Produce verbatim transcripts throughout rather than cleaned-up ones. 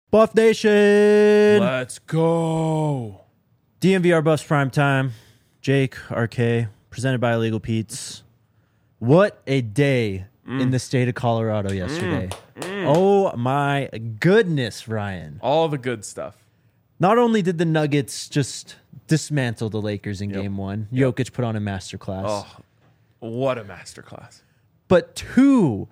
Buff Nation. Let's go. D M V R Buffs Prime Time. Jake, R K, presented by Illegal Pete's. What a day mm. in the state of Colorado yesterday. Mm. Mm. Oh my goodness, Ryan. All the good stuff. Not only did the Nuggets just dismantle the Lakers in yep. game one, yep. Jokic put on a masterclass. Oh, what a masterclass. But two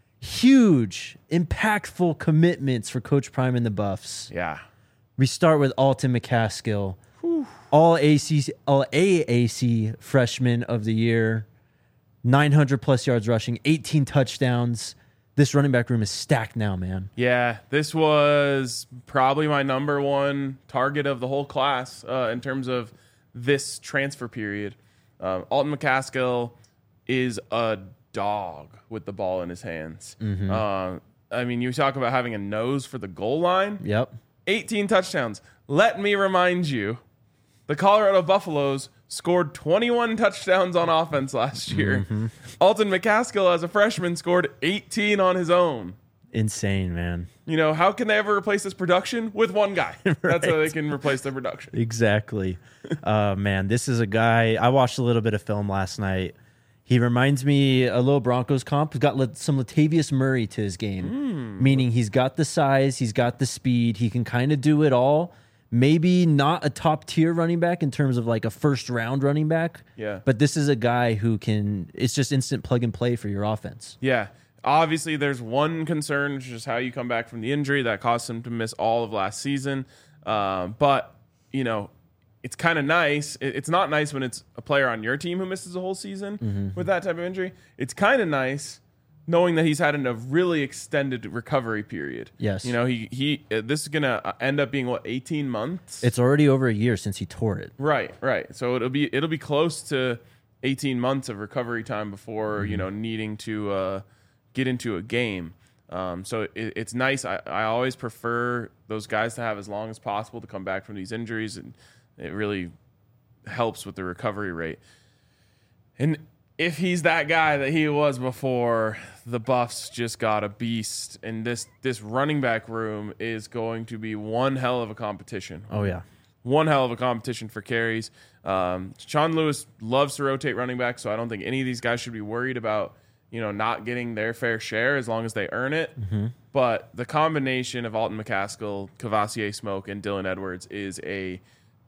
huge, impactful commitments for Coach Prime and the Buffs. Yeah. We start with Alton McCaskill, Whew. all A C, all A A C freshman of the year, nine hundred plus yards rushing, eighteen touchdowns. This running back room is stacked now, man. Yeah, this was probably my number one target of the whole class uh, in terms of this transfer period. Um, Alton McCaskill is a dog with the ball in his hands. Mm-hmm. Uh, I mean, you talk about having a nose for the goal line. Yep. eighteen touchdowns. Let me remind you, the Colorado Buffaloes scored twenty-one touchdowns on offense last year. Mm-hmm. Alton McCaskill, as a freshman, scored eighteen on his own. Insane, man. You know, how can they ever replace this production? With one guy. Right. That's how they can replace the production. Exactly. uh, man, this is a guy. I watched a little bit of film last night. He reminds me a little Broncos comp. He's got some Latavius Murray to his game, mm. meaning he's got the size, he's got the speed, he can kind of do it all. Maybe not a top tier running back in terms of like a first round running back. Yeah. But this is a guy who can, it's just instant plug and play for your offense. Yeah. Obviously, there's one concern, which is how you come back from the injury that caused him to miss all of last season. Uh, but, you know, it's kind of nice. It's not nice when it's a player on your team who misses a whole season mm-hmm. with that type of injury. It's kind of nice knowing that he's had a really extended recovery period. Yes. You know, he he. Uh, this is going to end up being, what, eighteen months? It's already over a year since he tore it. Right, right. So it'll be it'll be close to eighteen months of recovery time before, mm-hmm. you know, needing to uh, get into a game. Um, so it, it's nice. I, I always prefer those guys to have as long as possible to come back from these injuries, and it really helps with the recovery rate. And if he's that guy that he was before, the Buffs just got a beast. And this this running back room is going to be one hell of a competition. Oh, yeah. One hell of a competition for carries. Um, Sean Lewis loves to rotate running back, so I don't think any of these guys should be worried about, you know, not getting their fair share as long as they earn it. Mm-hmm. But the combination of Alton McCaskill, Kavosiey Smoke, and Dylan Edwards is a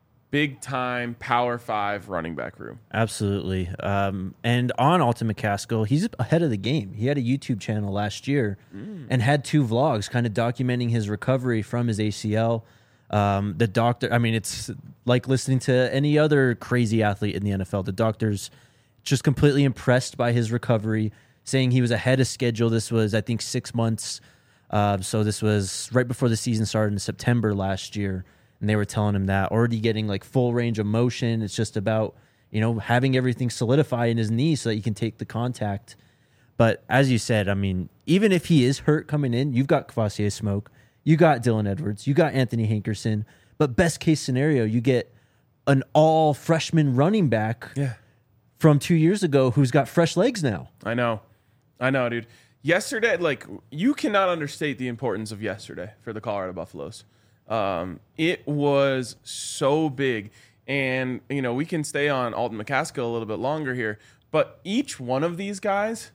big-time Power Five running back room. Absolutely. Um, and on Alton McCaskill, he's ahead of the game. He had a YouTube channel last year mm. and had two vlogs kind of documenting his recovery from his A C L. Um, the doctor, I mean, it's like listening to any other crazy athlete in the N F L. The doctor's just completely impressed by his recovery, saying he was ahead of schedule. This was, I think, six months. Uh, so this was right before the season started in September last year. And they were telling him that, already getting like full range of motion. It's just about, you know, having everything solidify in his knee so that he can take the contact. But as you said, I mean, even if he is hurt coming in, you've got Kavosiey Smoke, you got Dylan Edwards, you got Anthony Hankerson. But best case scenario, you get an all freshman running back yeah. from two years ago who's got fresh legs now. I know. I know, dude. Yesterday, like, you cannot understate the importance of yesterday for the Colorado Buffaloes. Um, it was so big, and, you know, we can stay on Alton McCaskill a little bit longer here, but each one of these guys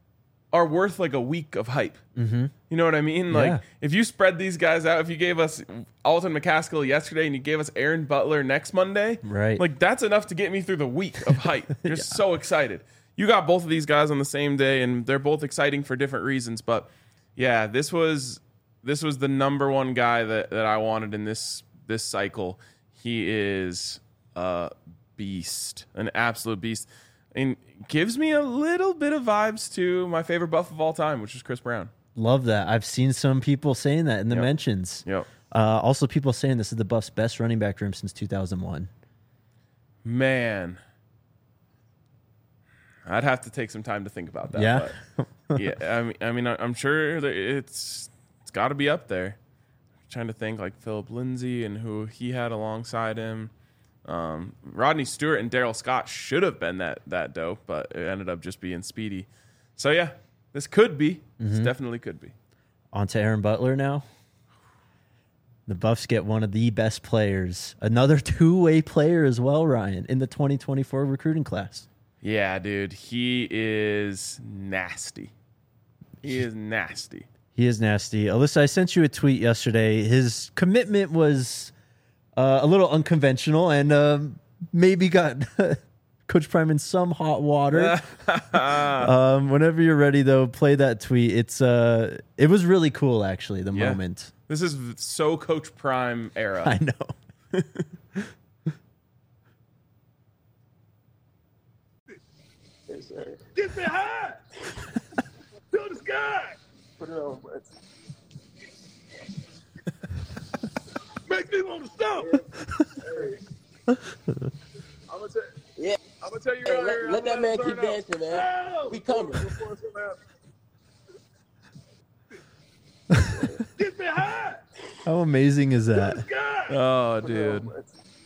are worth like a week of hype. Mm-hmm. You know what I mean? Like, yeah. if you spread these guys out, if you gave us Alton McCaskill yesterday and you gave us Aaron Butler next Monday, right? Like, that's enough to get me through the week of hype. Just yeah. so excited. You got both of these guys on the same day, and they're both exciting for different reasons, but yeah, this was... This was the number one guy that, that I wanted in this this cycle. He is a beast, an absolute beast, and gives me a little bit of vibes to my favorite Buff of all time, which is Chris Brown. Love that. I've seen some people saying that in the yep. mentions. Yep. Uh, also, people saying this is the Buffs' best running back room since two thousand one. Man, I'd have to take some time to think about that. Yeah, but yeah. I mean, I mean, I'm sure that it's. It's got to be up there. I'm trying to think like Philip Lindsay and who he had alongside him. Um, Rodney Stewart and Daryl Scott should have been that that dope, but it ended up just being Speedy. So yeah, this could be. Mm-hmm. This definitely could be. On to Aaron Butler now. The Buffs get one of the best players, another two-way player as well, Ryan, in the twenty twenty-four recruiting class. Yeah, dude, he is nasty. He is nasty. He is nasty. Alyssa, I sent you a tweet yesterday. His commitment was uh, a little unconventional and uh, maybe got Coach Prime in some hot water. um, whenever you're ready, though, play that tweet. It's uh, it was really cool, actually, the Yeah. moment. This is so Coach Prime era. I know. Yes, sir. Get me high! To the sky! Put it on, bro. Make me want to stop! Hey. I'm gonna tell Yeah. I'm gonna tell you Hey, right let, here. let I'm that gonna man turn keep up. dancing, man. Oh! We coming. Before it's gonna happen. Get me high! How amazing is To the that? sky! Oh, Put it on, dude. bro.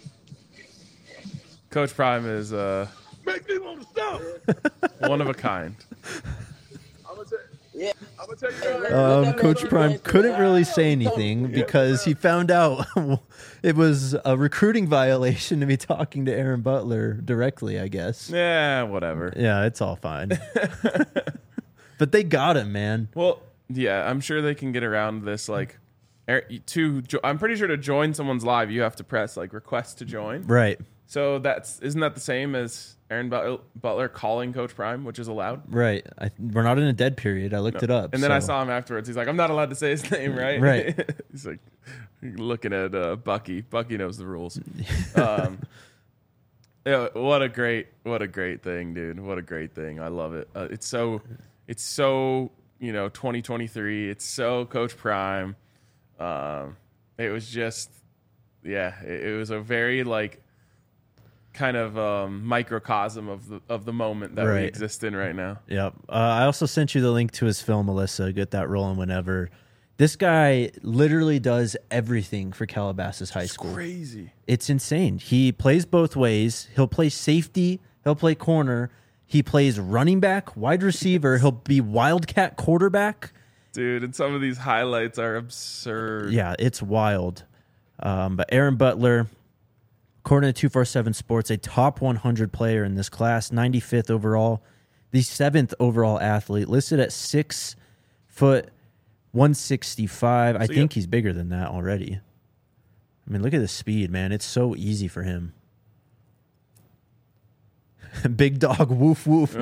Coach Prime is uh, Make me want to stop! one of a kind. I'm gonna tell Yeah. I'm gonna tell you Hey, right let- here. let Um, that man Coach keep Prime dancing, couldn't man. really say We coming. anything because he found out it was a recruiting violation to be talking to Aaron Butler directly, I guess. Yeah, whatever. Yeah, it's all fine. But they got him, man. Well, yeah, I'm sure they can get around this. Like, er- to jo- I'm pretty sure to join someone's live, you have to press like request to join. Right, So that's isn't that the same as Aaron But- Butler calling Coach Prime, which is allowed? right. I, we're not in a dead period. I looked it up. And then I so- saw him afterwards. He's like, I'm not allowed to say his name, right? Right. He's like looking at uh, Bucky. Bucky knows the rules. um, yeah, what a great, what a great thing, dude. What a great thing. I love it. Uh, it's so, it's so, you know, twenty twenty-three. It's so Coach Prime. Um, it was just, yeah, it, it was a very like kind of um, microcosm of the of the moment that we Right. exist in right now. Yep. Uh, I also sent you the link to his film, Alyssa. Get that rolling whenever. This guy literally does everything for Calabasas High School. Crazy. It's insane. He plays both ways. He'll play safety. He'll play corner. He plays running back, wide receiver. He'll be wildcat quarterback. Dude, and some of these highlights are absurd. Yeah, it's wild. Um, but Aaron Butler, according to two forty-seven Sports, a top one hundred player in this class, ninety-fifth overall, the seventh overall athlete, listed at six foot one sixty-five. I So think you- he's bigger than that already. I mean, look at the speed, man. It's so easy for him. Big dog, woof woof.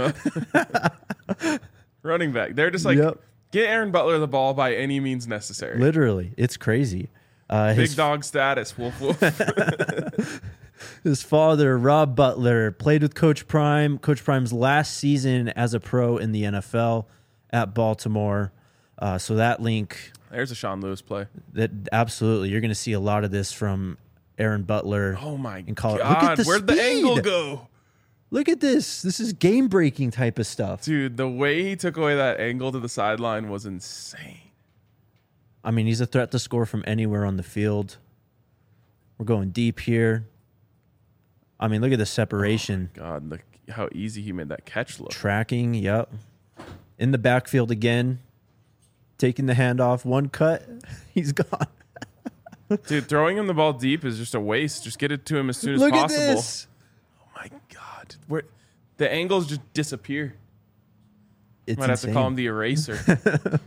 Running back. They're just like, Yep. get Aaron Butler the ball by any means necessary. Literally, it's crazy. Uh, Big his, dog status. Woof woof. his father, Rob Butler, played with Coach Prime. Coach Prime's last season as a pro in the N F L at Baltimore. Uh, so that link, There's a Sean Lewis play. that absolutely, you're going to see a lot of this from Aaron Butler. Oh my in college. god. Look at the Where'd the speed. angle go? Look at this. This is game breaking type of stuff. Dude, the way he took away that angle to the sideline was insane. I mean, he's a threat to score from anywhere on the field. We're going deep here. I mean, look at the separation. God, look how easy he made that catch look. Tracking, yep. In the backfield again. Taking the handoff. One cut. He's gone. Dude, throwing him the ball deep is just a waste. Just get it to him as soon as Look possible. at this. Oh my god. Where the angles just disappear. It's Might have to call him insane. the eraser.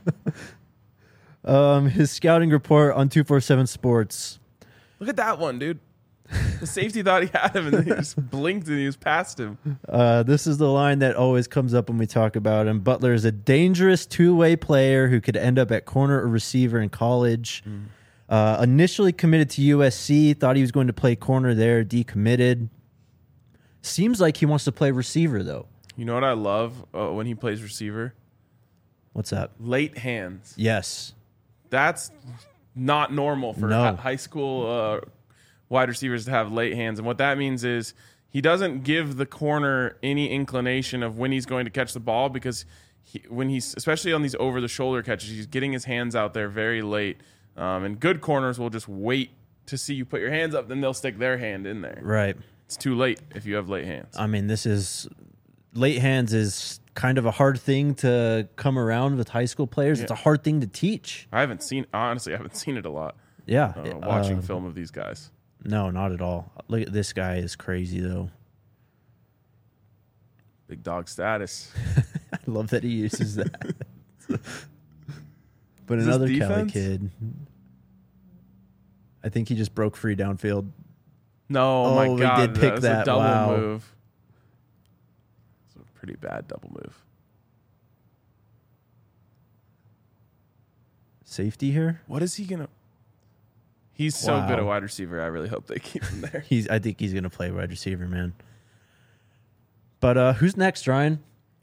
Um, his scouting report on two forty-seven Sports. Look at that one, dude. The safety thought he had him, and then he just blinked and he was past him. Uh, this is the line that always comes up when we talk about him. Butler is a dangerous two-way player who could end up at corner or receiver in college. Mm. Uh, initially committed to U S C, thought he was going to play corner there, decommitted. Seems like he wants to play receiver, though. You know what I love uh, when he plays receiver? What's that? Late hands. Yes. That's not normal for No. hi- high school uh, wide receivers to have late hands. And what that means is he doesn't give the corner any inclination of when he's going to catch the ball because he, when he's, especially on these over-the-shoulder catches, he's getting his hands out there very late. Um, and good corners will just wait to see you put your hands up, then they'll stick their hand in there. Right. It's too late if you have late hands. I mean, this is late hands is kind of a hard thing to come around with high school players. It's a hard thing to teach. I haven't seen, honestly, I haven't seen it a lot. Yeah. uh, watching um, film of these guys. No, not at all. Look at this guy is crazy though. Big dog status. I love that he uses that. But Is this another Cali defense? kid. I think he just broke free downfield. No, Oh, my he God. did pick was that. a double Wow. move. It's a pretty bad double move. Safety here. What is he going to... He's so Wow. good at wide receiver. I really hope they keep him there. He's. I think he's gonna play wide receiver, man. But uh, who's next, Ryan?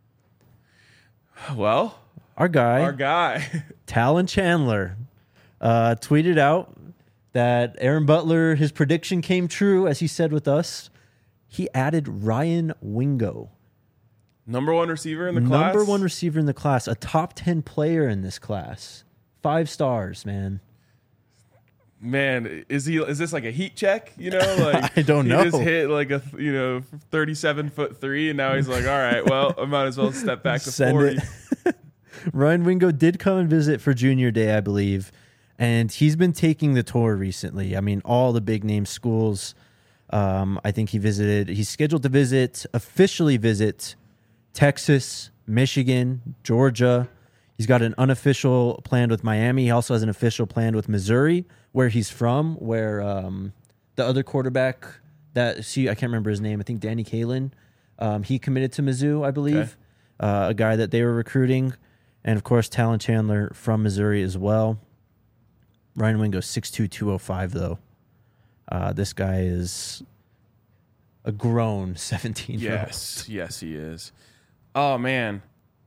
Well, Our guy, our guy. Talon Chandler, uh, tweeted out that Aaron Butler, his prediction came true, as he said with us. He added Ryan Wingo, Number one receiver in the class. number one receiver in the class, a top ten player in this class, five stars, man. Man, is he? Is this like a heat check? You know, like I don't he know. just hit like a you know thirty-seven foot three, and now he's like, all right, well, I might as well step back to Send forty. it. Ryan Wingo did come and visit for junior day, I believe, and he's been taking the tour recently. I mean, all the big name schools. Um, I think he visited. He's scheduled to visit, officially visit Texas, Michigan, Georgia. He's got an unofficial plan with Miami. He also has an official plan with Missouri, where he's from, where um, the other quarterback that, see, I can't remember his name. I think Danny Kalin. Um, he committed to Mizzou, I believe, Okay. uh, a guy that they were recruiting. And, of course, Talon Chandler from Missouri as well. Ryan Wingo, six two, two oh five, though. Uh, this guy is a grown seventeen-year-old. Yes, yes, he is. Oh man,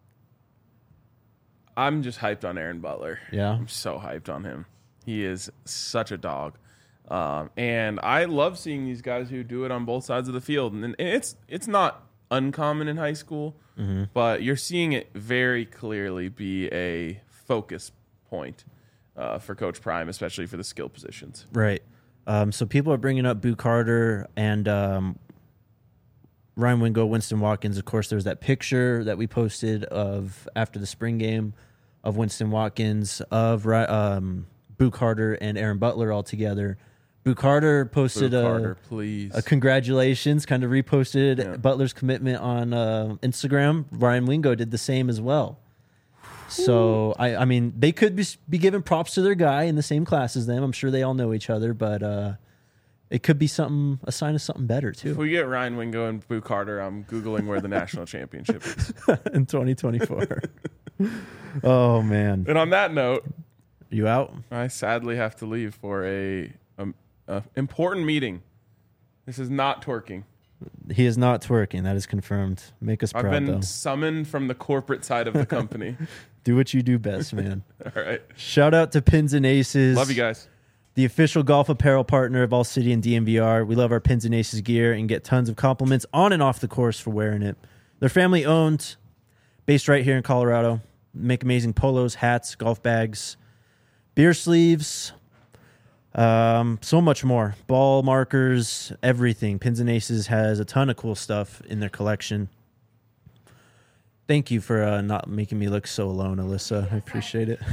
I'm just hyped on Aaron Butler. Yeah. I'm so hyped on him. He is such a dog, um, and I love seeing these guys who do it on both sides of the field. And, and it's it's not uncommon in high school, Mm-hmm. but you're seeing it very clearly be a focus point uh, for Coach Prime, especially for the skill positions. Right. Um, so people are bringing up Boo Carter and um, Ryan Wingo, Winston Watkins. Of course, there's that picture that we posted of after the spring game of Winston Watkins, of Ri- um, Boo Carter and Aaron Butler all together. Boo Carter posted Boo a, Carter, please. a congratulations, kind of reposted Yeah. Butler's commitment on uh, Instagram. Ryan Wingo did the same as well. So, I, I mean, they could be, be giving props to their guy in the same class as them. I'm sure they all know each other, but uh, it could be something, a sign of something better, If too, we get Ryan Wingo and Boo Carter, I'm Googling where the national championship is. in twenty twenty-four. Oh, man. And on that note, You out? I sadly have to leave for a, um, a important meeting. This is not twerking. He is not twerking. That is confirmed. Make us I've proud, been though. summoned from the corporate side of the company. Do what you do best, man. All right. Shout out to Pins and Aces. Love you guys. The official golf apparel partner of All City and D M V R. We love our Pins and Aces gear and get tons of compliments on and off the course for wearing it. They're family owned, based right here in Colorado. Make amazing polos, hats, golf bags, beer sleeves, um, so much more. Ball markers, everything. Pins and Aces has a ton of cool stuff in their collection. Thank you for uh, not making me look so alone, Alyssa. I appreciate it.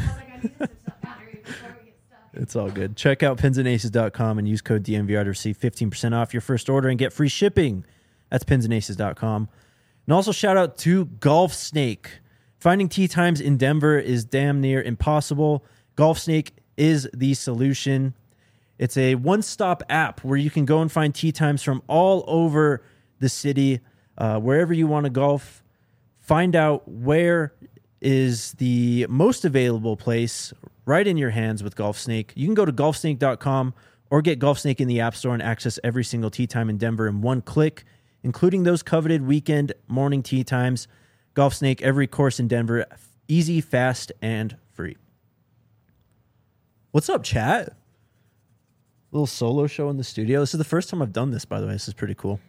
It's all good. Check out pins and aces dot com and use code D M V R to receive fifteen percent off your first order and get free shipping. That's pins and aces dot com. And also shout out to Golf Snake. Finding tee times in Denver is damn near impossible. Golf Snake is the solution. It's a one-stop app where you can go and find tee times from all over the city, uh, wherever you want to golf. Find out where is the most available place right in your hands with Golf Snake. You can go to golf snake dot com or get Golf Snake in the App Store and access every single tee time in Denver in one click, including those coveted weekend morning tee times. Golf Snake, every course in Denver, easy, fast, and free. What's up, chat? Little solo show in the studio. This is the first time I've done this, by the way. This is pretty cool.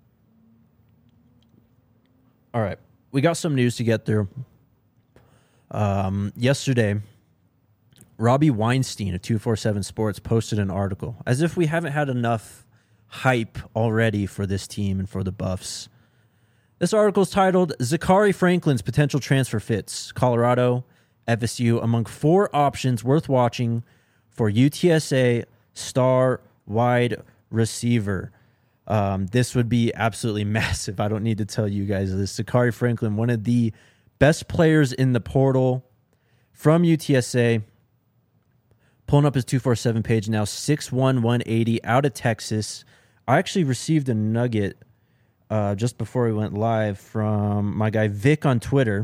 All right. We got some news to get through. Um, yesterday, Robbie Weinstein of two forty-seven Sports posted an article, as if we haven't had enough hype already for this team and for the Buffs. This article is titled, Zachary Franklin's Potential Transfer Fits, Colorado, F S U, among four options worth watching for U T S A star wide receiver. Um, this would be absolutely massive. I don't need to tell you guys this. Zakhari Franklin, one of the best players in the portal from U T S A. Pulling up his two forty-seven page now, six one, one eighty, out of Texas. I actually received a nugget uh, just before we went live from my guy Vic on Twitter.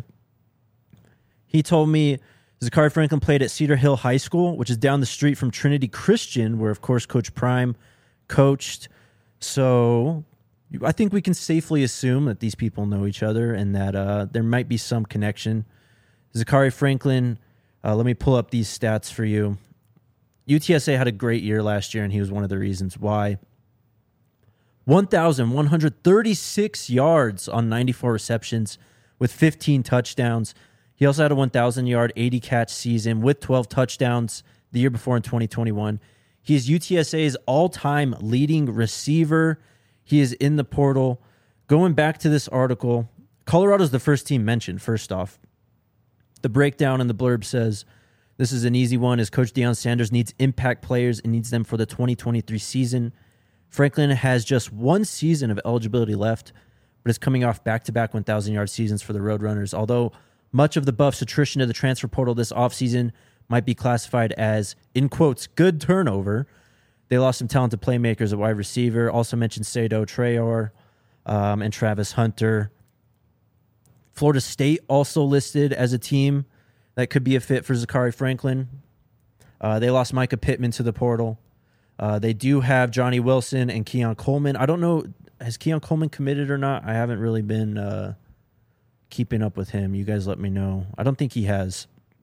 He told me Zakhari Franklin played at Cedar Hill High School, which is down the street from Trinity Christian, where, of course, Coach Prime coached. So I think we can safely assume that these people know each other and that uh, there might be some connection. Zakhari Franklin, uh, let me pull up these stats for you. U T S A had a great year last year, and he was one of the reasons why. one thousand one hundred thirty-six yards on ninety-four receptions with fifteen touchdowns. He also had a one thousand-yard, eighty-catch season with twelve touchdowns the year before in twenty twenty-one. He is U T S A's all-time leading receiver. He is in the portal. Going back to this article, Colorado's the first team mentioned, first off. The breakdown in the blurb says, this is an easy one, as Coach Deion Sanders needs impact players and needs them for the twenty twenty-three season. Franklin has just one season of eligibility left, but is coming off back-to-back one thousand-yard seasons for the Roadrunners. Although much of the Buffs' attrition to the transfer portal this offseason might be classified as, in quotes, good turnover, they lost some talented playmakers at wide receiver. Also mentioned Sado Traore um, and Travis Hunter. Florida State also listed as a team that could be a fit for Zakhari Franklin. Uh, they lost Micah Pittman to the portal. Uh, they do have Johnny Wilson and Keon Coleman. I don't know, has Keon Coleman committed or not? I haven't really been uh, keeping up with him. You guys let me know. I don't think he has.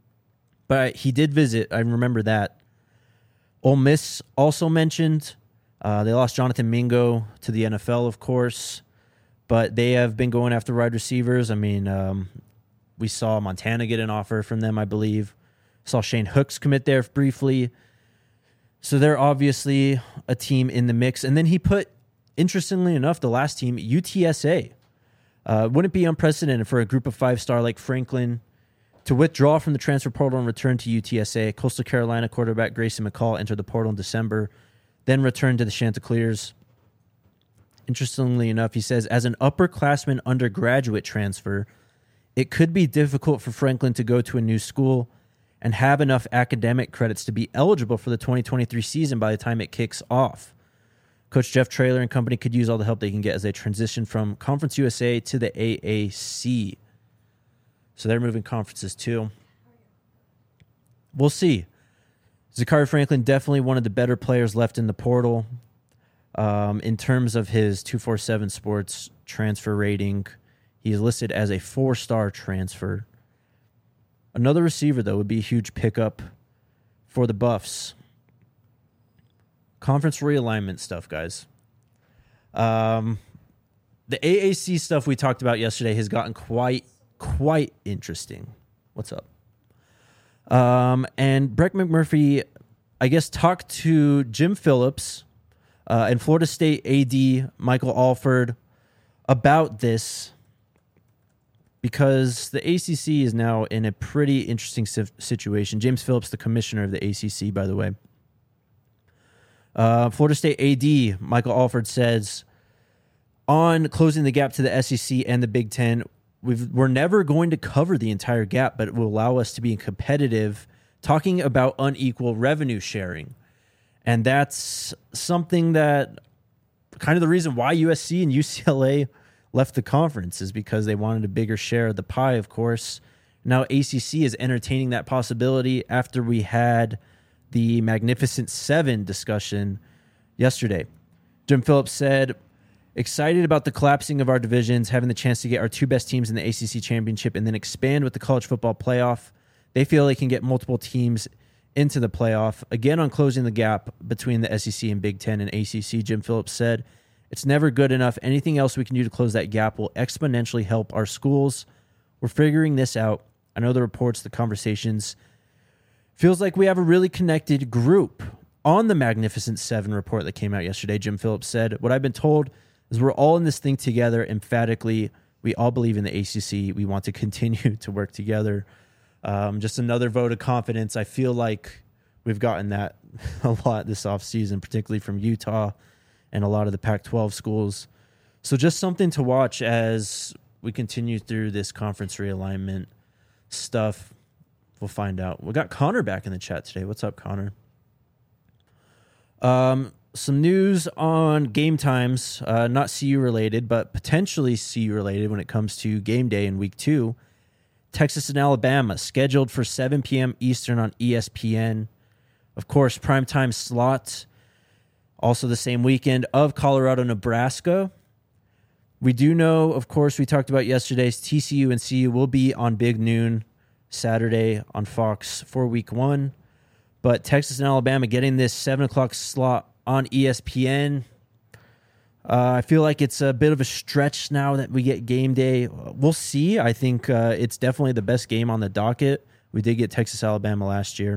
But he did visit. I remember that. Ole Miss also mentioned. Uh, they lost Jonathan Mingo to the N F L, of course. But they have been going after wide receivers. I mean, um, we saw Montana get an offer from them, I believe. Saw Shane Hooks commit there briefly. So they're obviously a team in the mix. And then he put, interestingly enough, the last team, U T S A. Uh, wouldn't it be unprecedented for a group of five-star like Franklin to withdraw from the transfer portal and return to U T S A? Coastal Carolina quarterback Grayson McCall entered the portal in December, then returned to the Chanticleers. Interestingly enough, he says, as an upperclassman undergraduate transfer, it could be difficult for Franklin to go to a new school and have enough academic credits to be eligible for the twenty twenty-three season by the time it kicks off. Coach Jeff Traylor and company could use all the help they can get as they transition from Conference U S A to the A A C. So they're moving conferences too. We'll see. Zakhari Franklin, definitely one of the better players left in the portal. Um, in terms of his two forty-seven Sports transfer rating, he is listed as a four-star transfer. Another receiver, though, would be a huge pickup for the Buffs. Conference realignment stuff, guys. Um, the A A C stuff we talked about yesterday has gotten quite, quite interesting. What's up? Um, and Brett McMurphy, I guess, talked to Jim Phillips uh, and Florida State A D Michael Alford about this, because the A C C is now in a pretty interesting situation. James Phillips, the commissioner of the A C C, by the way. Uh, Florida State A D Michael Alford says, on closing the gap to the S E C and the Big Ten, we've, we're never going to cover the entire gap, but it will allow us to be competitive, talking about unequal revenue sharing. And that's something that kind of the reason why U S C and U C L A left the conference is because they wanted a bigger share of the pie, of course. Now A C C is entertaining that possibility after we had the Magnificent Seven discussion yesterday. Jim Phillips said, excited about the collapsing of our divisions, having the chance to get our two best teams in the A C C championship and then expand with the college football playoff. They feel they can get multiple teams into the playoff. Again, on closing the gap between the S E C and Big Ten and A C C, Jim Phillips said, it's never good enough. Anything else we can do to close that gap will exponentially help our schools. We're figuring this out. I know the reports, the conversations. Feels like we have a really connected group. On the Magnificent Seven report that came out yesterday, Jim Phillips said, what I've been told is we're all in this thing together. Emphatically, we all believe in the A C C. We want to continue to work together. Um, just another vote of confidence. I feel like we've gotten that a lot this offseason, particularly from Utah and a lot of the Pac twelve schools. So just something to watch as we continue through this conference realignment stuff. We'll find out. We got Connor back in the chat today. What's up, Connor? Um, some news on game times, uh, not C U related, but potentially C U related when it comes to game day in week two. Texas and Alabama scheduled for seven p.m. Eastern on E S P N. Of course, primetime slot, also the same weekend of Colorado, Nebraska. We do know, of course, we talked about yesterday's T C U and C U will be on Big Noon Saturday on Fox for week one. But Texas and Alabama getting this seven o'clock slot on E S P N. Uh, I feel like it's a bit of a stretch now that we get game day. We'll see. I think uh, it's definitely the best game on the docket. We did get Texas, Alabama last year.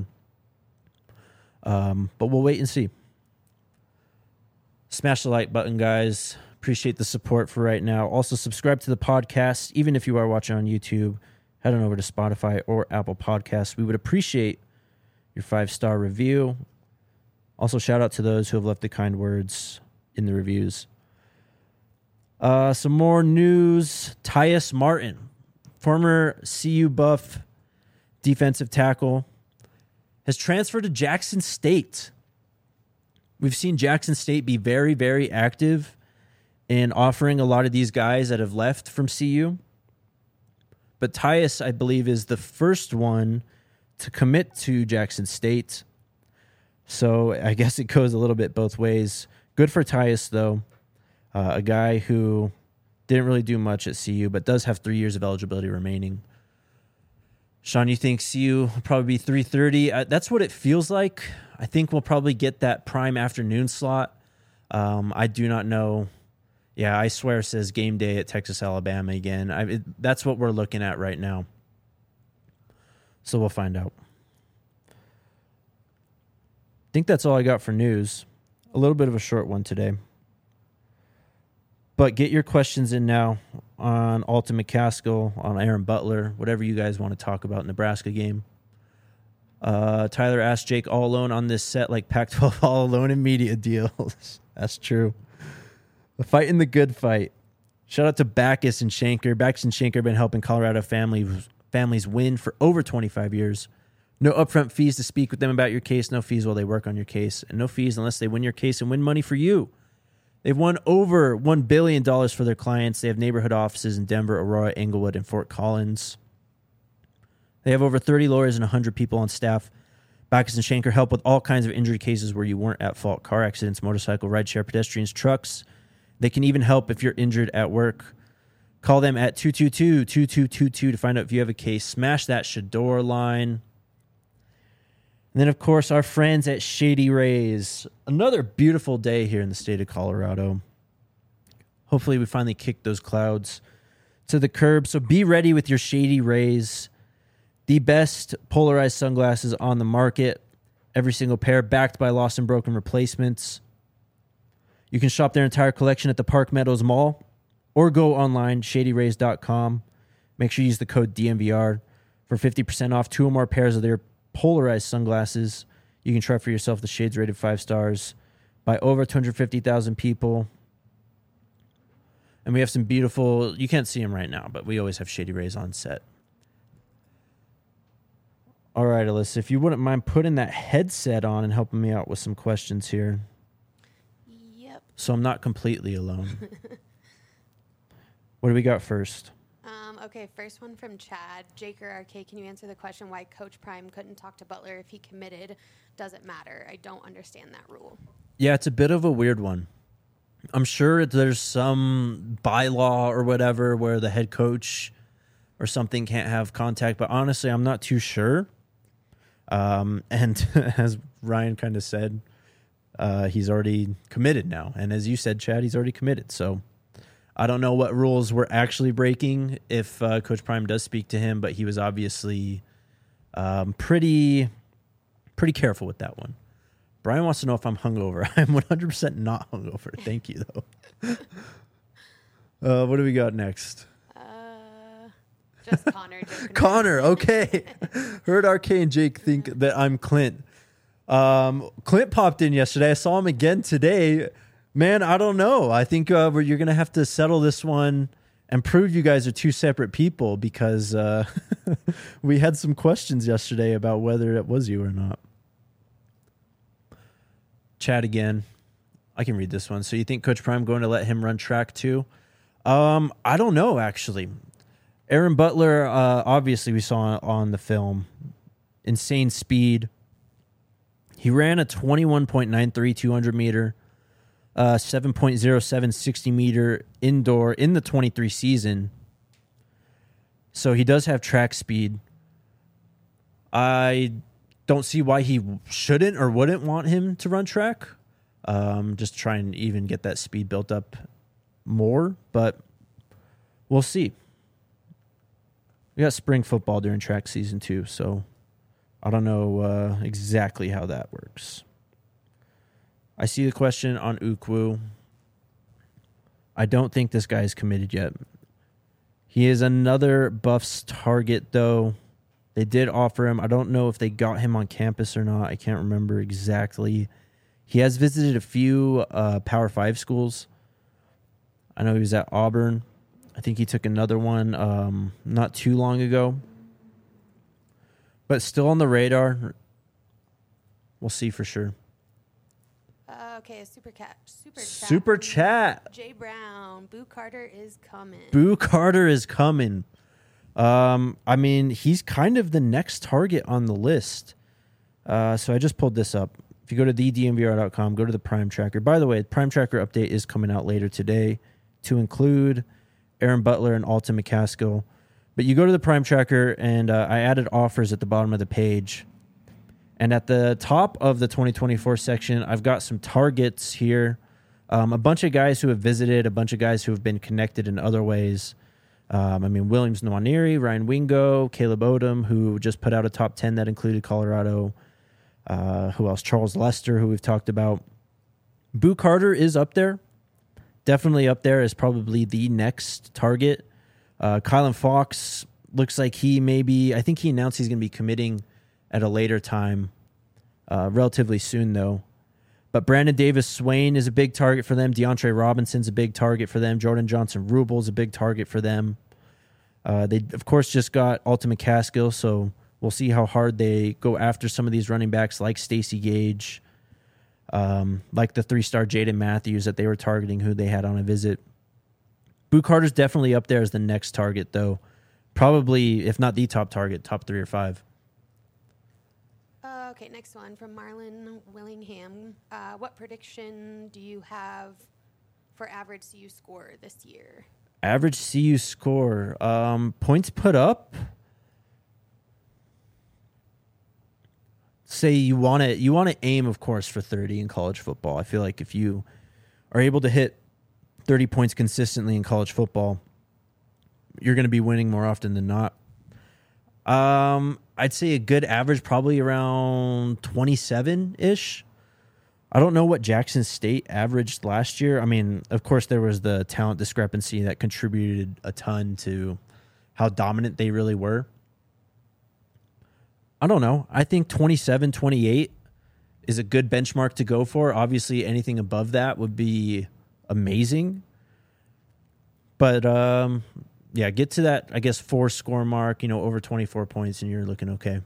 Um, but we'll wait and see. Smash the like button, guys. Appreciate the support for right now. Also, subscribe to the podcast. Even if you are watching on YouTube, head on over to Spotify or Apple Podcasts. We would appreciate your five-star review. Also, shout out to those who have left the kind words in the reviews. Uh, some more news. Tyus Martin, former C U Buff defensive tackle, has transferred to Jackson State. We've seen Jackson State be very, very active in offering a lot of these guys that have left from C U. But Tyus, I believe, is the first one to commit to Jackson State. So I guess it goes a little bit both ways. Good for Tyus, though. Uh, a guy who didn't really do much at C U, but does have three years of eligibility remaining. Sean, you think C U will probably be three thirty? Uh, that's what it feels like. I think we'll probably get that prime afternoon slot. Um, I do not know. Yeah, I swear it says game day at Texas, Alabama again. I, it, that's what we're looking at right now. So we'll find out. I think that's all I got for news. A little bit of a short one today. But get your questions in now on Alton McCaskill, on Aaron Butler, whatever you guys want to talk about Nebraska game. Uh, Tyler asked Jake all alone on this set like Pac twelve all alone in media deals. That's true. The fight in the good fight. Shout out to Backus and Shanker. Backus and Shanker have been helping Colorado families, families win for over twenty-five years. No upfront fees to speak with them about your case. No fees while they work on your case. And no fees unless they win your case and win money for you. They've won over one billion dollars for their clients. They have neighborhood offices in Denver, Aurora, Englewood, and Fort Collins. They have over thirty lawyers and one hundred people on staff. Backus and Shanker help with all kinds of injury cases where you weren't at fault. Car accidents, motorcycle, rideshare, pedestrians, trucks. They can even help if you're injured at work. Call them at two two two, two two two two to find out if you have a case. Smash that Shador line. And then, of course, our friends at Shady Rays. Another beautiful day here in the state of Colorado. Hopefully we finally kick those clouds to the curb. So be ready with your Shady Rays. The best polarized sunglasses on the market. Every single pair backed by lost and broken replacements. You can shop their entire collection at the Park Meadows Mall or go online, shady rays dot com. Make sure you use the code D M V R for fifty percent off two or more pairs of their polarized sunglasses. You can try for yourself. The shades rated five stars by over two hundred fifty thousand people. And we have some beautiful, you can't see them right now, but we always have Shady Rays on set. All right, Alyssa, if you wouldn't mind putting that headset on and helping me out with some questions here. Yep. So I'm not completely alone. What do we got first? Um, okay, first one from Chad. Jake or R K, can you answer the question why Coach Prime couldn't talk to Butler if he committed? Does it matter? I don't understand that rule. Yeah, it's a bit of a weird one. I'm sure there's some bylaw or whatever where the head coach or something can't have contact, but honestly, I'm not too sure. Um, and as Ryan kind of said, uh, he's already committed now. And as you said, Chad, he's already committed. So I don't know what rules we're actually breaking if uh, Coach Prime does speak to him, but he was obviously um, pretty, pretty careful with that one. Brian wants to know if I'm hungover. I'm one hundred percent not hungover. Thank you, though. uh, what do we got next? Uh, just Connor. Connor, okay. Heard R K and Jake think that I'm Clint. Um, Clint popped in yesterday. I saw him again today. Man, I don't know. I think uh, we're, you're going to have to settle this one and prove you guys are two separate people because uh, we had some questions yesterday about whether it was you or not. Chat again. I can read this one. So you think Coach Prime going to let him run track too? Um, I don't know, actually. Aaron Butler, uh, obviously we saw on the film, insane speed. He ran a twenty-one point nine three two hundred meter, uh, seven point oh seven sixty meter indoor in the twenty-three season. So he does have track speed. I don't see why he shouldn't or wouldn't want him to run track. Um, just try and even get that speed built up more, but we'll see. We got spring football during track season too, so I don't know uh, exactly how that works. I see the question on Ukwu. I don't think this guy is committed yet. He is another Buffs target, though. They did offer him. I don't know if they got him on campus or not. I can't remember exactly. He has visited a few uh, Power Five schools. I know he was at Auburn. I think he took another one um, not too long ago. But still on the radar. We'll see for sure. Uh, okay, a super cat, super chat. Super from chat. Jay Brown, Boo Carter is coming. Boo Carter is coming. Um, I mean, he's kind of the next target on the list. Uh, so I just pulled this up. If you go to the d m v r dot com, go to the Prime Tracker. By the way, the Prime Tracker update is coming out later today to include Aaron Butler and Alton McCaskill. But you go to the Prime Tracker, and uh, I added offers at the bottom of the page. And at the top of the twenty twenty-four section, I've got some targets here. Um, a bunch of guys who have visited, a bunch of guys who have been connected in other ways. Um, I mean, Williams Nwaneri, Ryan Wingo, Caleb Odom, who just put out a top ten that included Colorado. Uh, who else? Charles Lester, who we've talked about. Boo Carter is up there. Definitely up there as probably the next target. Uh, Kylan Fox looks like he may be, I think he announced he's going to be committing at a later time, uh, relatively soon though. But Brandon Davis Swain is a big target for them. DeAndre Robinson's a big target for them. Jordan Johnson Rubel's a big target for them. Uh, they, of course, just got Alton McCaskill, so we'll see how hard they go after some of these running backs like Stacey Gage, um, like the three-star Jaden Matthews that they were targeting, who they had on a visit. Boo Carter's definitely up there as the next target, though. Probably, if not the top target, top three or five. Uh, okay, next one from Marlon Willingham. Uh, what prediction do you have for average C U score this year? Average C U score. Um, points put up. Say you want to you want to aim, of course, for thirty in college football. I feel like if you are able to hit thirty points consistently in college football, you're going to be winning more often than not. Um, I'd say a good average, probably around twenty-seven-ish. I don't know what Jackson State averaged last year. I mean, of course, there was the talent discrepancy that contributed a ton to how dominant they really were. I don't know. I think twenty-seven, twenty-eight is a good benchmark to go for. Obviously, anything above that would be amazing. But, um, yeah, get to that, I guess, four score mark, you know, over twenty-four points, and you're looking okay.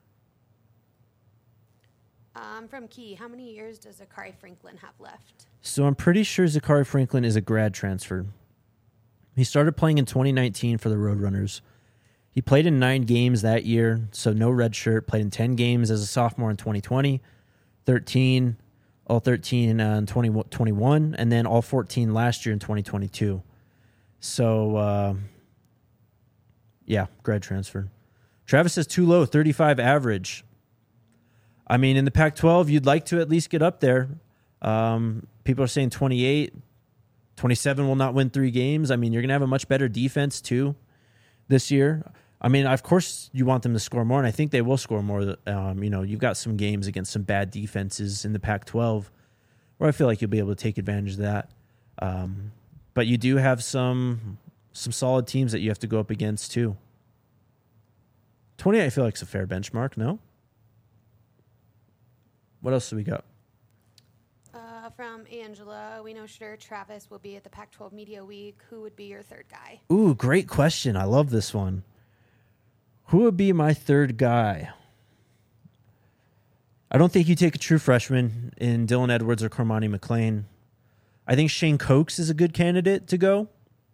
Um, from Key, how many years does Zakari Franklin have left? So I'm pretty sure Zakari Franklin is a grad transfer. He started playing in twenty nineteen for the Roadrunners. He played in nine games that year, so no red shirt. Played in ten games as a sophomore in twenty twenty, thirteen, all thirteen uh, in twenty twenty-one, and then all fourteen last year in twenty twenty-two. So, uh, yeah, grad transfer. Travis says too low, thirty-five average. I mean, in the Pac twelve, you'd like to at least get up there. Um, people are saying twenty-eight, twenty-seven will not win three games. I mean, you're going to have a much better defense, too, this year. I mean, of course, you want them to score more, and I think they will score more. Um, you know, you've got some games against some bad defenses in the Pac twelve where I feel like you'll be able to take advantage of that. Um, but you do have some some solid teams that you have to go up against, too. twenty-eight, I feel like, is a fair benchmark, no? What else do we got? Uh, from Angela, we know Shadur Travis will be at the Pac twelve Media Week. Who would be your third guy? Ooh, great question. I love this one. Who would be my third guy? I don't think you take a true freshman in Dylan Edwards or Cormani McLean. I think Shane Cokes is a good candidate to go.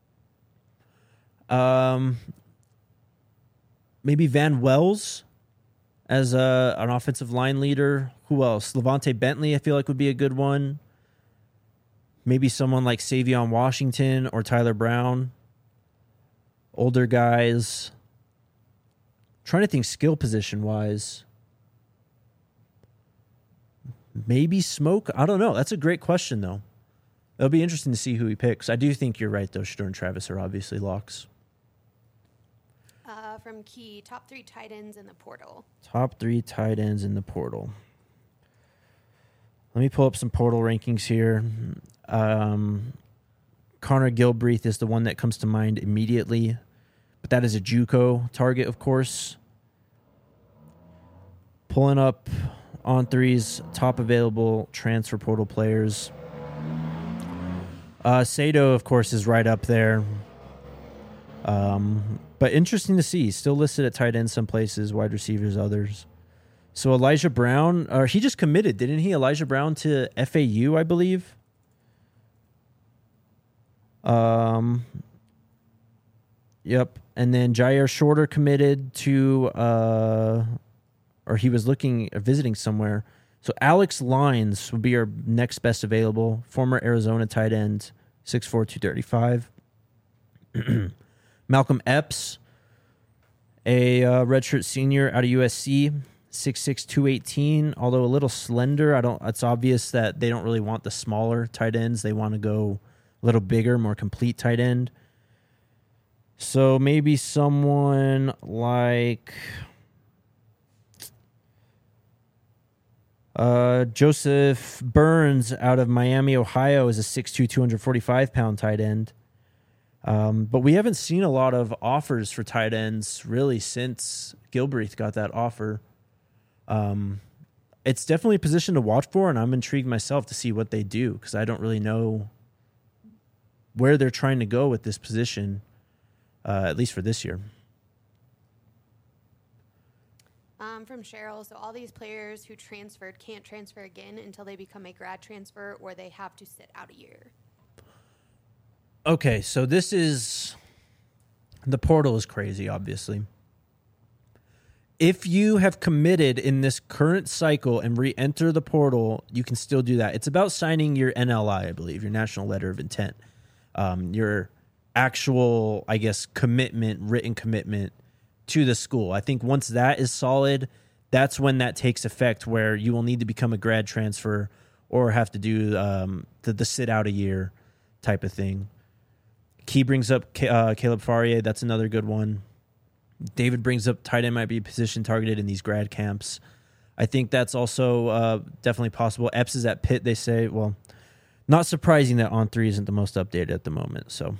Um, maybe Van Wells as a, an offensive line leader. Who else? Levante Bentley, I feel like, would be a good one. Maybe someone like Savion Washington or Tyler Brown. Older guys. Trying to think skill position wise. Maybe Smoke? I don't know. That's a great question, though. It'll be interesting to see who he picks. I do think you're right, though. Shadur and Travis are obviously locks. Uh, from Key, top three tight ends in the portal. Top three tight ends in the portal. Let me pull up some portal rankings here. Um, Connor Gilbreath is the one that comes to mind immediately, but that is a JUCO target, of course. Pulling up On three's top available transfer portal players. Uh, Sato, of course, is right up there. Um, but interesting to see. Still listed at tight end some places, wide receivers others. So Elijah Brown, or he just committed, didn't he? Elijah Brown to F A U, I believe. Um. Yep. And then Jair Shorter committed to, uh, or he was looking, or visiting somewhere. So Alex Lines would be our next best available. Former Arizona tight end, six four, two thirty-five. Malcolm Epps, a uh, redshirt senior out of U S C, six six, two eighteen, although a little slender. I don't. It's obvious that they don't really want the smaller tight ends. They want to go a little bigger, more complete tight end. So maybe someone like uh, Joseph Burns out of Miami, Ohio, is a six two, two forty-five pound tight end. Um, but we haven't seen a lot of offers for tight ends really since Gilbreath got that offer. Um, it's definitely a position to watch for, and I'm intrigued myself to see what they do because I don't really know where they're trying to go with this position, uh, at least for this year. Um, from Cheryl, so all these players who transferred can't transfer again until they become a grad transfer, or they have to sit out a year. Okay, so this is, the portal is crazy, obviously. If you have committed in this current cycle and re-enter the portal, you can still do that. It's about signing your N L I, I believe, your National Letter of Intent. Um, your actual, I guess, commitment, written commitment to the school. I think once that is solid, that's when that takes effect, where you will need to become a grad transfer or have to do um, the, the sit out a year type of thing. Key brings up uh, Caleb Faria. That's another good one. David brings up tight end might be a position targeted in these grad camps. I think that's also uh, definitely possible. Epps is at Pitt, they say. Well, not surprising that On three isn't the most updated at the moment. So,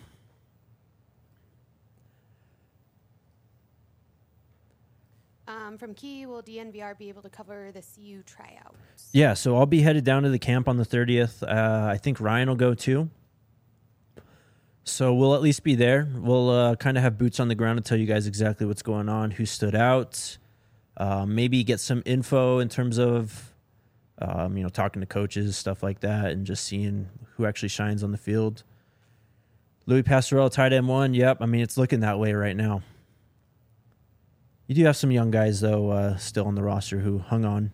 Um, from Key, will D N V R be able to cover the C U tryouts? yeah, so I'll be headed down to the camp on the thirtieth. Uh, I think Ryan will go too. So we'll at least be there. We'll uh, kind of have boots on the ground to tell you guys exactly what's going on, who stood out, uh, maybe get some info in terms of, um, you know, talking to coaches, stuff like that, and just seeing who actually shines on the field. Louis Pastorell, tight end one. Yep, I mean, it's looking that way right now. You do have some young guys, though, uh, still on the roster who hung on.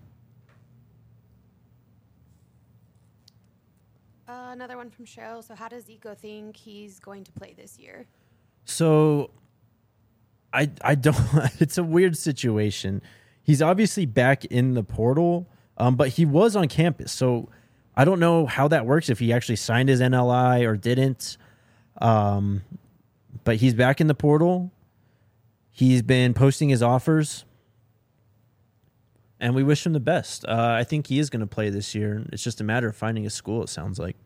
Uh, another one from Cheryl. So how does Zico think he's going to play this year? So I I don't it's a weird situation. He's obviously back in the portal, um, but he was on campus. So I don't know how that works, if he actually signed his N L I or didn't. Um, but he's back in the portal. He's been posting his offers. And we wish him the best. Uh, I think he is going to play this year. It's just a matter of finding a school, it sounds like.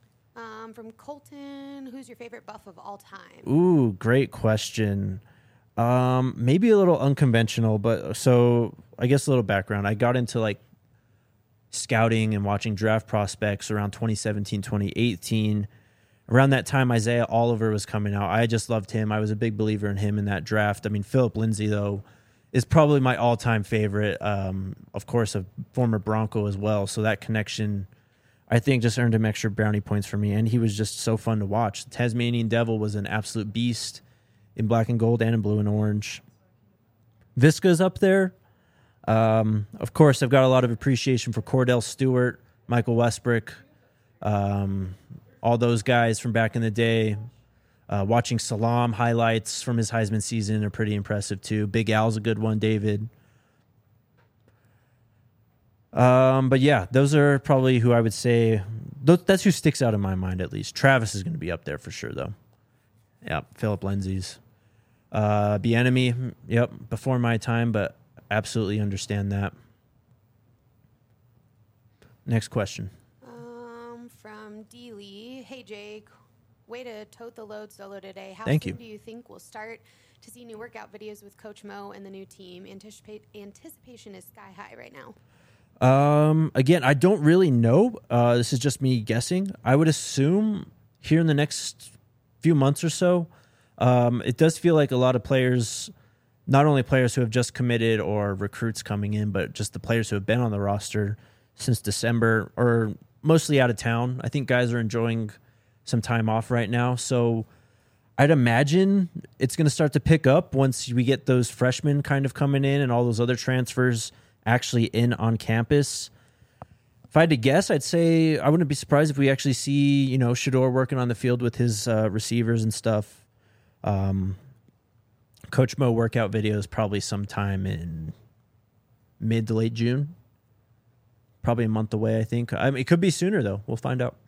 Um, from Colton, who's your favorite buff of all time? Ooh, great question. Um, maybe a little unconventional, but so I guess a little background. I got into like scouting and watching draft prospects around twenty seventeen, twenty eighteen. Around that time, Isaiah Oliver was coming out. I just loved him. I was a big believer in him in that draft. I mean, Philip Lindsay, though, is probably my all-time favorite. Um, of course, a former Bronco as well. So that connection, I think, just earned him extra brownie points for me. And he was just so fun to watch. The Tasmanian Devil was an absolute beast in black and gold and in blue and orange. Visca's up there. Um, of course, I've got a lot of appreciation for Cordell Stewart, Michael Westbrook, um, all those guys from back in the day. Uh, watching Salam highlights from his Heisman season are pretty impressive too. Big Al's a good one, David. Um, but yeah, those are probably who I would say. Th- that's who sticks out in my mind at least. Travis is going to be up there for sure, though. Yeah, Philip Lindsay's. Uh, Bieniemy, yep, before my time, but absolutely understand that. Next question. Um, from D. Lee. Hey, Jake. Way to tote the load solo today. How Thank soon you. do you think we'll start to see new workout videos with Coach Mo and the new team? Anticipate, anticipation is sky high right now. Um, again, I don't really know. Uh, this is just me guessing. I would assume here in the next few months or so, um, it does feel like a lot of players, not only players who have just committed or recruits coming in, but just the players who have been on the roster since December or mostly out of town. I think guys are enjoying some time off right now. So I'd imagine it's going to start to pick up once we get those freshmen kind of coming in and all those other transfers actually in on campus. If I had to guess, I'd say I wouldn't be surprised if we actually see, you know, Shador working on the field with his uh, receivers and stuff. Um, Coach Mo workout videos probably sometime in mid to late June. Probably a month away, I think. I mean, it could be sooner, though. We'll find out.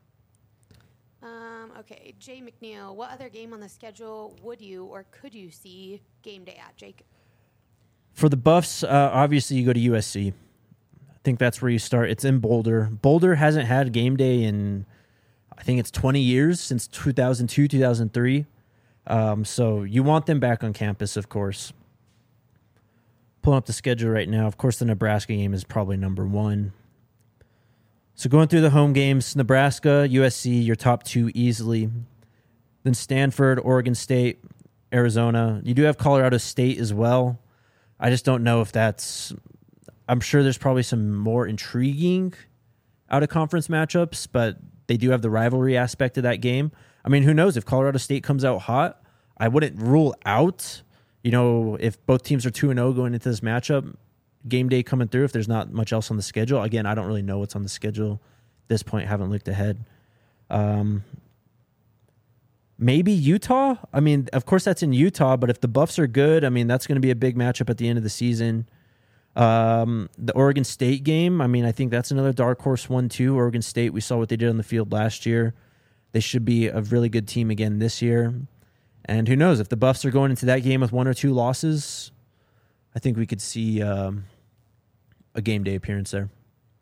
Um, okay, Jay McNeil. What other game on the schedule would you or could you see game day at, Jake? For the Buffs, uh, obviously you go to U S C. I think that's where you start. It's in Boulder. Boulder hasn't had game day in, I think it's twenty years, since two thousand two, two thousand three. Um, so you want them back on campus, of course. Pulling up the schedule right now. Of course, the Nebraska game is probably number one. So going through the home games, Nebraska, U S C, your top two easily. Then Stanford, Oregon State, Arizona. You do have Colorado State as well. I just don't know if that's... I'm sure there's probably some more intriguing out-of-conference matchups, but they do have the rivalry aspect of that game. I mean, who knows? If Colorado State comes out hot, I wouldn't rule out, you know, if both teams are two and oh going into this matchup, game day coming through, if there's not much else on the schedule. Again, I don't really know what's on the schedule at this point. Haven't looked ahead. Um, maybe Utah. I mean, of course, that's in Utah, but if the Buffs are good, I mean, that's going to be a big matchup at the end of the season. Um, the Oregon State game, I mean, I think that's another dark horse one, too. Oregon State, we saw what they did on the field last year. They should be a really good team again this year. And who knows, if the Buffs are going into that game with one or two losses, I think we could see um, a game day appearance there.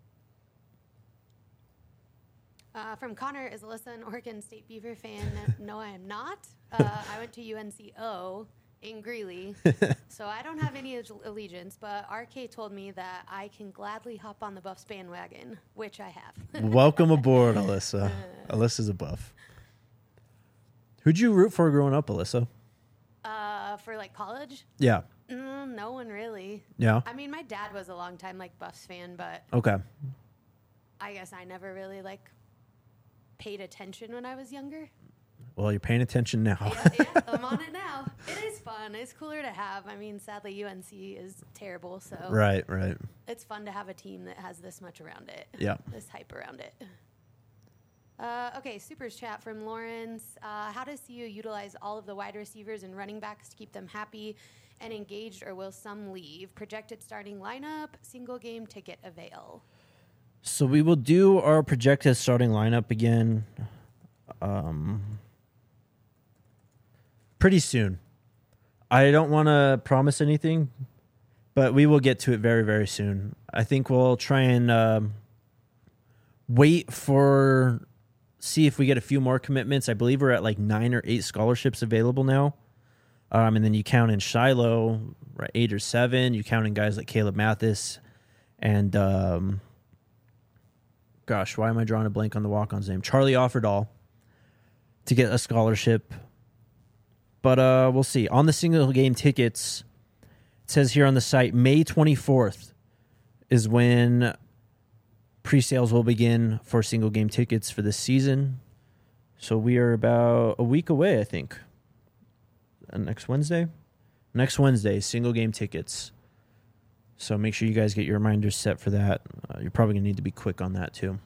Uh, from Connor, is Alyssa an Oregon State Beaver fan? No, I am not. Uh, I went to U N C O in Greeley, so I don't have any allegiance, but R K told me that I can gladly hop on the Buffs bandwagon, which I have. Welcome aboard, Alyssa. Alyssa's a Buff. Who'd you root for growing up, Alyssa? Uh, for like college? Yeah. Mm, no one really. Yeah? I mean, my dad was a long time like Buffs fan, but Okay. I guess I never really like paid attention when I was younger. Well, you're paying attention now. yeah, yeah, I'm on it now. It is fun. It's cooler to have. I mean, sadly, U N C is terrible, so Right, right. it's fun to have a team that has this much around it. Yeah. This hype around it. Uh, okay, Supers chat from Lawrence. Uh, how does C U utilize all of the wide receivers and running backs to keep them happy and engaged, or will some leave? Projected starting lineup, single game ticket avail. So we will do our projected starting lineup again um, pretty soon. I don't want to promise anything, but we will get to it very, very soon. I think we'll try and um, wait for, see if we get a few more commitments. I believe we're at like nine or eight scholarships available now. Um, and then you count in Shiloh, right, eight or seven. You count in guys like Caleb Mathis and, um, gosh, why am I drawing a blank on the walk-on's name? Charlie Offerdahl to get a scholarship. But uh, we'll see. On the single game tickets, it says here on the site, May twenty-fourth is when pre-sales will begin for single game tickets for this season. So we are about a week away, I think. Uh, next Wednesday? Next Wednesday, single game tickets. So make sure you guys get your reminders set for that. Uh, you're probably going to need to be quick on that too.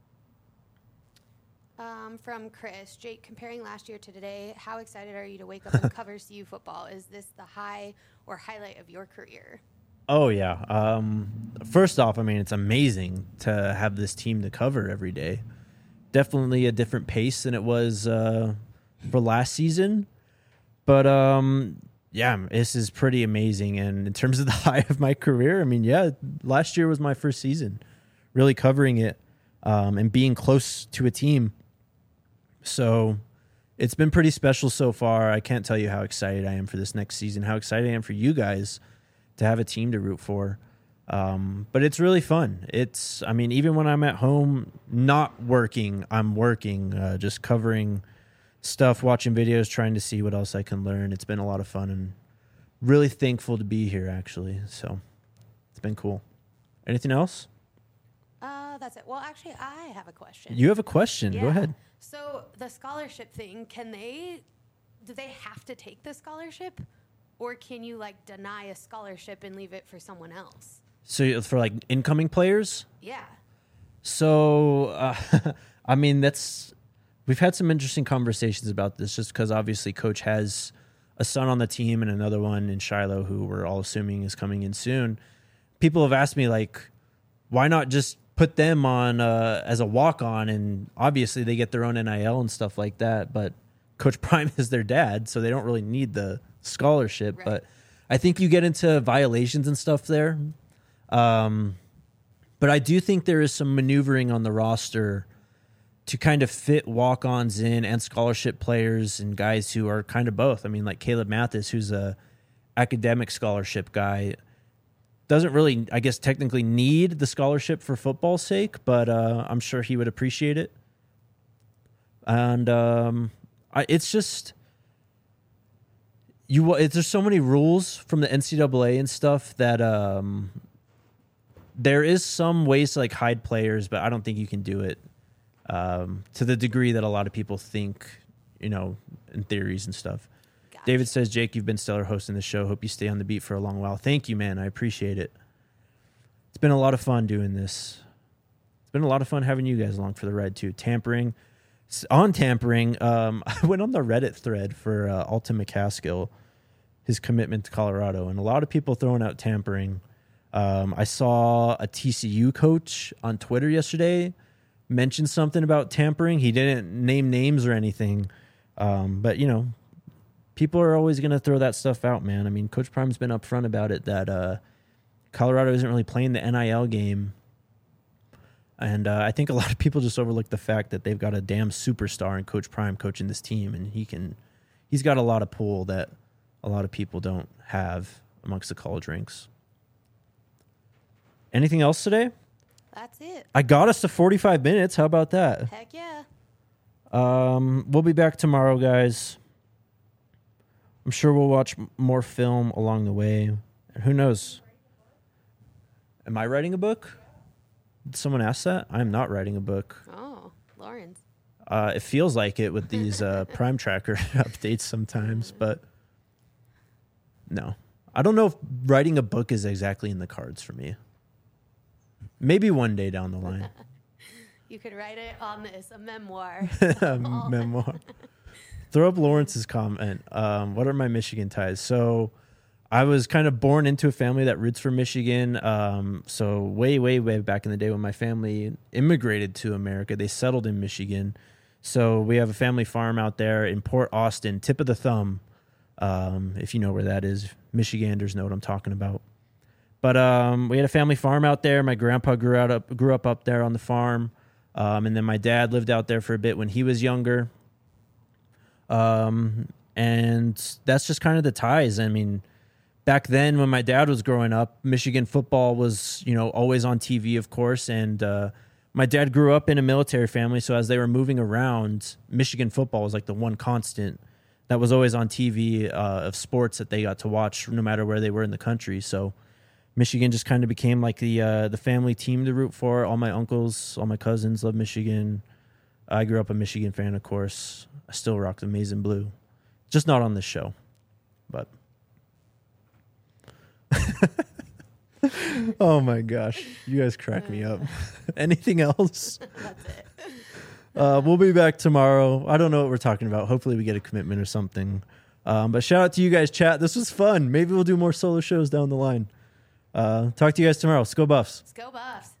Um, from Chris, Jake, comparing last year to today, how excited are you to wake up and cover C U football? Is this the high or highlight of your career? Oh, yeah. Um, first off, I mean, it's amazing to have this team to cover every day. Definitely a different pace than it was uh, for last season. But, um, yeah, this is pretty amazing. And in terms of the high of my career, I mean, yeah, last year was my first season really covering it um, and being close to a team. So it's been pretty special so far. I can't tell you how excited I am for this next season, how excited I am for you guys to have a team to root for. Um, but it's really fun. It's, I mean, even when I'm at home, not working, I'm working, uh, just covering stuff, watching videos, trying to see what else I can learn. It's been a lot of fun and really thankful to be here, actually. So it's been cool. Anything else? Uh, that's it. Well, actually, I have a question. You have a question. Yeah. Go ahead. So the scholarship thing, can they, do they have to take the scholarship? Or can you, like, deny a scholarship and leave it for someone else? So for, like, incoming players? Yeah. So, uh, I mean, that's, we've had some interesting conversations about this just because obviously Coach has a son on the team and another one in Shiloh who we're all assuming is coming in soon. People have asked me, like, why not just put them on uh, as a walk-on, and obviously they get their own N I L and stuff like that, but Coach Prime is their dad, so they don't really need the scholarship. Right. But I think you get into violations and stuff there. Um, but I do think there is some maneuvering on the roster to kind of fit walk-ons in and scholarship players and guys who are kind of both. I mean, like Caleb Mathis, who's a academic scholarship guy, doesn't really, I guess, technically need the scholarship for football's sake, but uh, I'm sure he would appreciate it. And um, I, it's just, you. It's, there's so many rules from the N C double A and stuff that um, there is some ways to like hide players, but I don't think you can do it um, to the degree that a lot of people think, you know, in theories and stuff. Gotcha. David says, Jake, you've been stellar hosting the show. Hope you stay on the beat for a long while. Thank you, man. I appreciate it. It's been a lot of fun doing this. It's been a lot of fun having you guys along for the ride, too. Tampering. On tampering, um, I went on the Reddit thread for uh, Alton McCaskill, his commitment to Colorado, and a lot of people throwing out tampering. Um, I saw a T C U coach on Twitter yesterday mention something about tampering. He didn't name names or anything, um, but, you know, people are always going to throw that stuff out, man. I mean, Coach Prime's been upfront about it that uh, Colorado isn't really playing the N I L game. And uh, I think a lot of people just overlook the fact that they've got a damn superstar in Coach Prime coaching this team, and he can, he's got a lot of pull that a lot of people don't have amongst the college ranks. Anything else today? That's it. I got us to forty-five minutes. How about that? Heck yeah. Um, we'll be back tomorrow, guys. I'm sure we'll watch m- more film along the way. And who knows? Am I writing a book? Did someone ask that? I'm not writing a book. Oh, Lawrence. Uh, it feels like it with these uh, Prime Tracker updates sometimes, but no. I don't know if writing a book is exactly in the cards for me. Maybe one day down the line. You could write it on this, a memoir. Memoir. Throw up Lawrence's comment. Um, what are my Michigan ties? So I was kind of born into a family that roots for Michigan. Um, so way, way, way back in the day when my family immigrated to America, they settled in Michigan. So we have a family farm out there in Port Austin, tip of the thumb. Um, if you know where that is, Michiganders know what I'm talking about. But um, we had a family farm out there. My grandpa grew out up, grew up up there on the farm. Um, and then my dad lived out there for a bit when he was younger. Um, and that's just kind of the ties. I mean, back then when my dad was growing up, Michigan football was, you know, always on T V, of course. And uh, my dad grew up in a military family. So as they were moving around, Michigan football was like the one constant that was always on T V uh, of sports that they got to watch no matter where they were in the country. So Michigan just kind of became like the uh, the family team to root for. All my uncles, all my cousins love Michigan. I grew up a Michigan fan, of course. I still rock the maize and blue. Just not on this show, but... Oh my gosh, you guys crack me up. Anything else? That's it. Uh, we'll be back tomorrow. I don't know what we're talking about. Hopefully we get a commitment or something. Um, but shout out to you guys, chat. This was fun. Maybe we'll do more solo shows down the line. Uh, talk to you guys tomorrow. Let's go Buffs. Let's go Buffs.